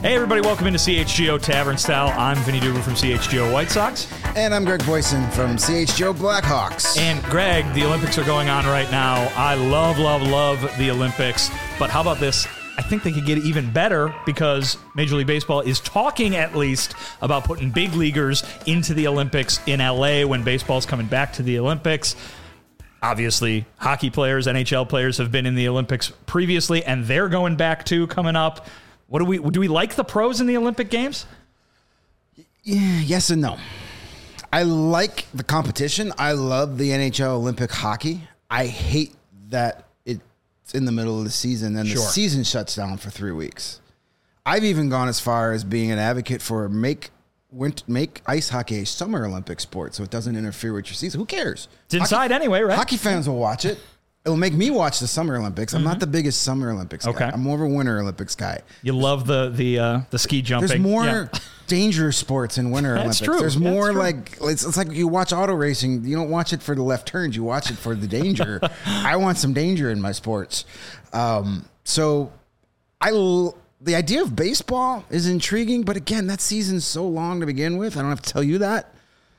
Hey, everybody, welcome into CHGO Tavern Style. I'm Vinny Duber from CHGO White Sox. And I'm Greg Boyson from CHGO Blackhawks. And Greg, the Olympics are going on right now. I love the Olympics. But how about this? I think they could get even better because Major League Baseball is talking at least about putting big leaguers into the Olympics in LA when baseball's coming back to the Olympics. Obviously, hockey players, NHL players have been in the Olympics previously, and they're going back too coming up. Do we like the pros in the Olympic Games? Yeah, yes and no. I like the competition. I love the NHL Olympic hockey. I hate that it's in the middle of the season and the season shuts down for 3 weeks. I've even gone as far as being an advocate for make ice hockey a summer Olympic sport so it doesn't interfere with your season. Who cares? It's inside anyway, right? Hockey fans will watch it. It'll make me watch the Summer Olympics. I'm not the biggest Summer Olympics guy. I'm more of a Winter Olympics guy. You love the ski jumping. There's more dangerous sports in Winter Olympics. True. There's more like it's like you watch auto racing. You don't watch it for the left turns. You watch it for the danger. I want some danger in my sports. So the idea of baseball is intriguing, but again, that season's so long to begin with. I don't have to tell you that.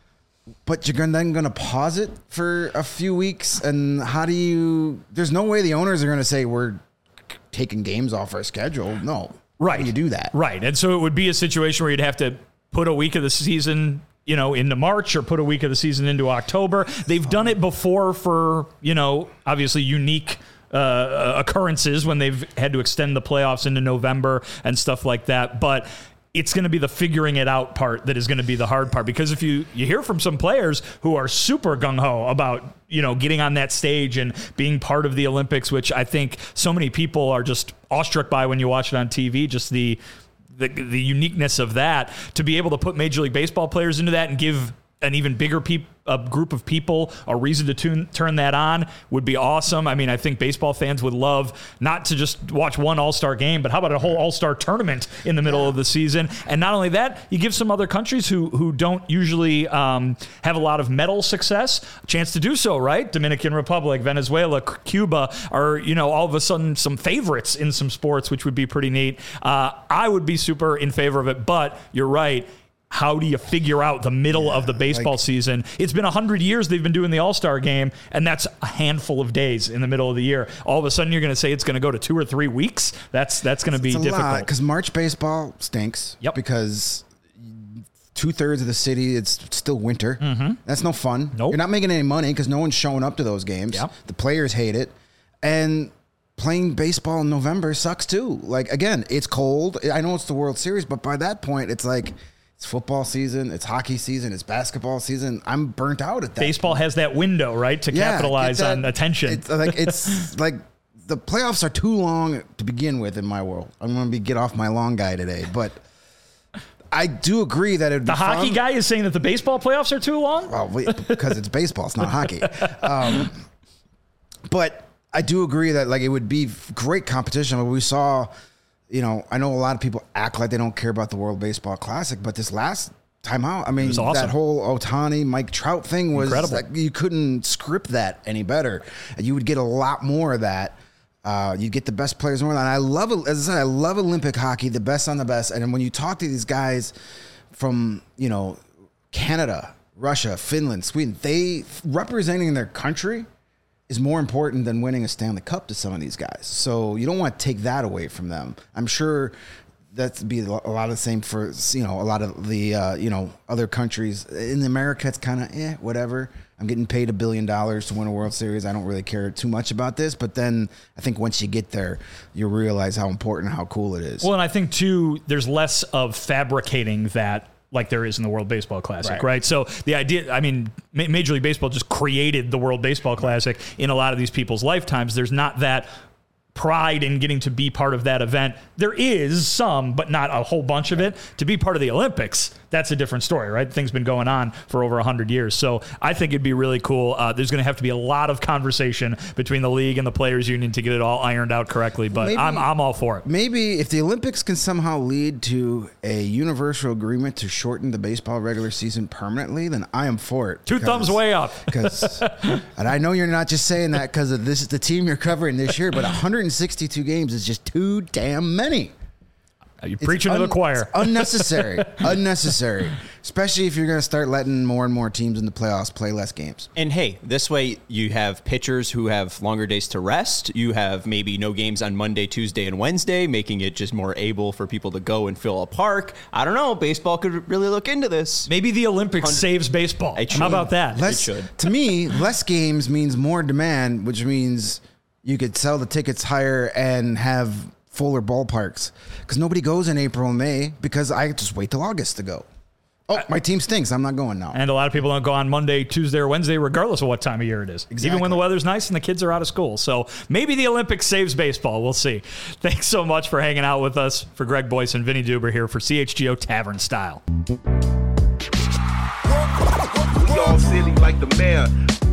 But you're then going to pause it for a few weeks, and there's no way the owners are going to say we're taking games off our schedule. No. Right. How do you do that? Right. And so it would be a situation where you'd have to put a week of the season, into March or put a week of the season into October. They've done it before for, obviously unique occurrences when they've had to extend the playoffs into November and stuff like that. But it's going to be the figuring it out part that is going to be the hard part, because if you hear from some players who are super gung-ho about, getting on that stage and being part of the Olympics, which I think so many people are just awestruck by when you watch it on TV, just the uniqueness of that, to be able to put Major League Baseball players into that and give an even bigger group of people a reason to turn that on would be awesome. I mean, I think baseball fans would love not to just watch one all-star game, but how about a whole all-star tournament in the middle of the season? And not only that, you give some other countries who don't usually have a lot of medal success a chance to do so, right? Dominican Republic, Venezuela, Cuba are, all of a sudden some favorites in some sports, which would be pretty neat. I would be super in favor of it, but you're right. How do you figure out the middle of the baseball season? It's been 100 years they've been doing the All-Star game, and that's a handful of days in the middle of the year. All of a sudden, you're going to say it's going to go to 2 or 3 weeks? That's going to be difficult. Because March baseball stinks. Yep. Because 2/3 of the city, it's still winter. Mm-hmm. That's no fun. Nope. You're not making any money because no one's showing up to those games. Yep. The players hate it. And playing baseball in November sucks too. Like, again, it's cold. I know it's the World Series, but by that point, it's like, it's football season, it's hockey season, it's basketball season. I'm burnt out at that. Baseball has that window, right, to capitalize on attention. It's like the playoffs are too long to begin with in my world. I'm going to get off my long guy today, but I do agree that it'd be the hockey fun. Guy is saying that the baseball playoffs are too long? Well, because it's baseball, it's not hockey. But I do agree that it would be great competition. But we saw. I know a lot of people act like they don't care about the World Baseball Classic, but this last time out, I mean, awesome. That whole Ohtani, Mike Trout thing was incredible. Like, you couldn't script that any better. You would get a lot more of that. You'd get the best players more. And I love it. As I said, I love Olympic hockey, the best on the best. And when you talk to these guys from, Canada, Russia, Finland, Sweden, they representing their country is more important than winning a Stanley Cup to some of these guys. So you don't want to take that away from them. I'm sure that'd be a lot of the same for, a lot of the, other countries. In America, it's kind of, whatever. I'm getting paid $1 billion to win a World Series. I don't really care too much about this. But then I think once you get there, you realize how important, how cool it is. Well, and I think, too, there's less of fabricating that like there is in the World Baseball Classic, right? So the idea, I mean, Major League Baseball just created the World Baseball Classic in a lot of these people's lifetimes. There's not that pride in getting to be part of that event. There is some, but not a whole bunch of it. To be part of the Olympics, that's a different story, right? Things been going on for over 100 years. So I think it'd be really cool. There's going to have to be a lot of conversation between the league and the players union to get it all ironed out correctly, but I'm all for it. Maybe if the Olympics can somehow lead to a universal agreement to shorten the baseball regular season permanently, then I am for it. Two thumbs way up. And I know you're not just saying that because this is the team you're covering this year, but 162 games is just too damn many. You're preaching to the choir. It's unnecessary. Unnecessary. Especially if you're going to start letting more and more teams in the playoffs play less games. And hey, this way you have pitchers who have longer days to rest. You have maybe no games on Monday, Tuesday, and Wednesday, making it just more able for people to go and fill a park. I don't know. Baseball could really look into this. Maybe the Olympics saves baseball. How about that? To me, less games means more demand, which means you could sell the tickets higher and have fuller ballparks. Because nobody goes in April and May because I just wait till August to go. Oh, my team stinks. I'm not going now. And a lot of people don't go on Monday, Tuesday, or Wednesday, regardless of what time of year it is. Exactly. Even when the weather's nice and the kids are out of school. So maybe the Olympics saves baseball. We'll see. Thanks so much for hanging out with us. For Greg Boyce and Vinny Duber here for CHGO Tavern Style. We all silly like the mayor.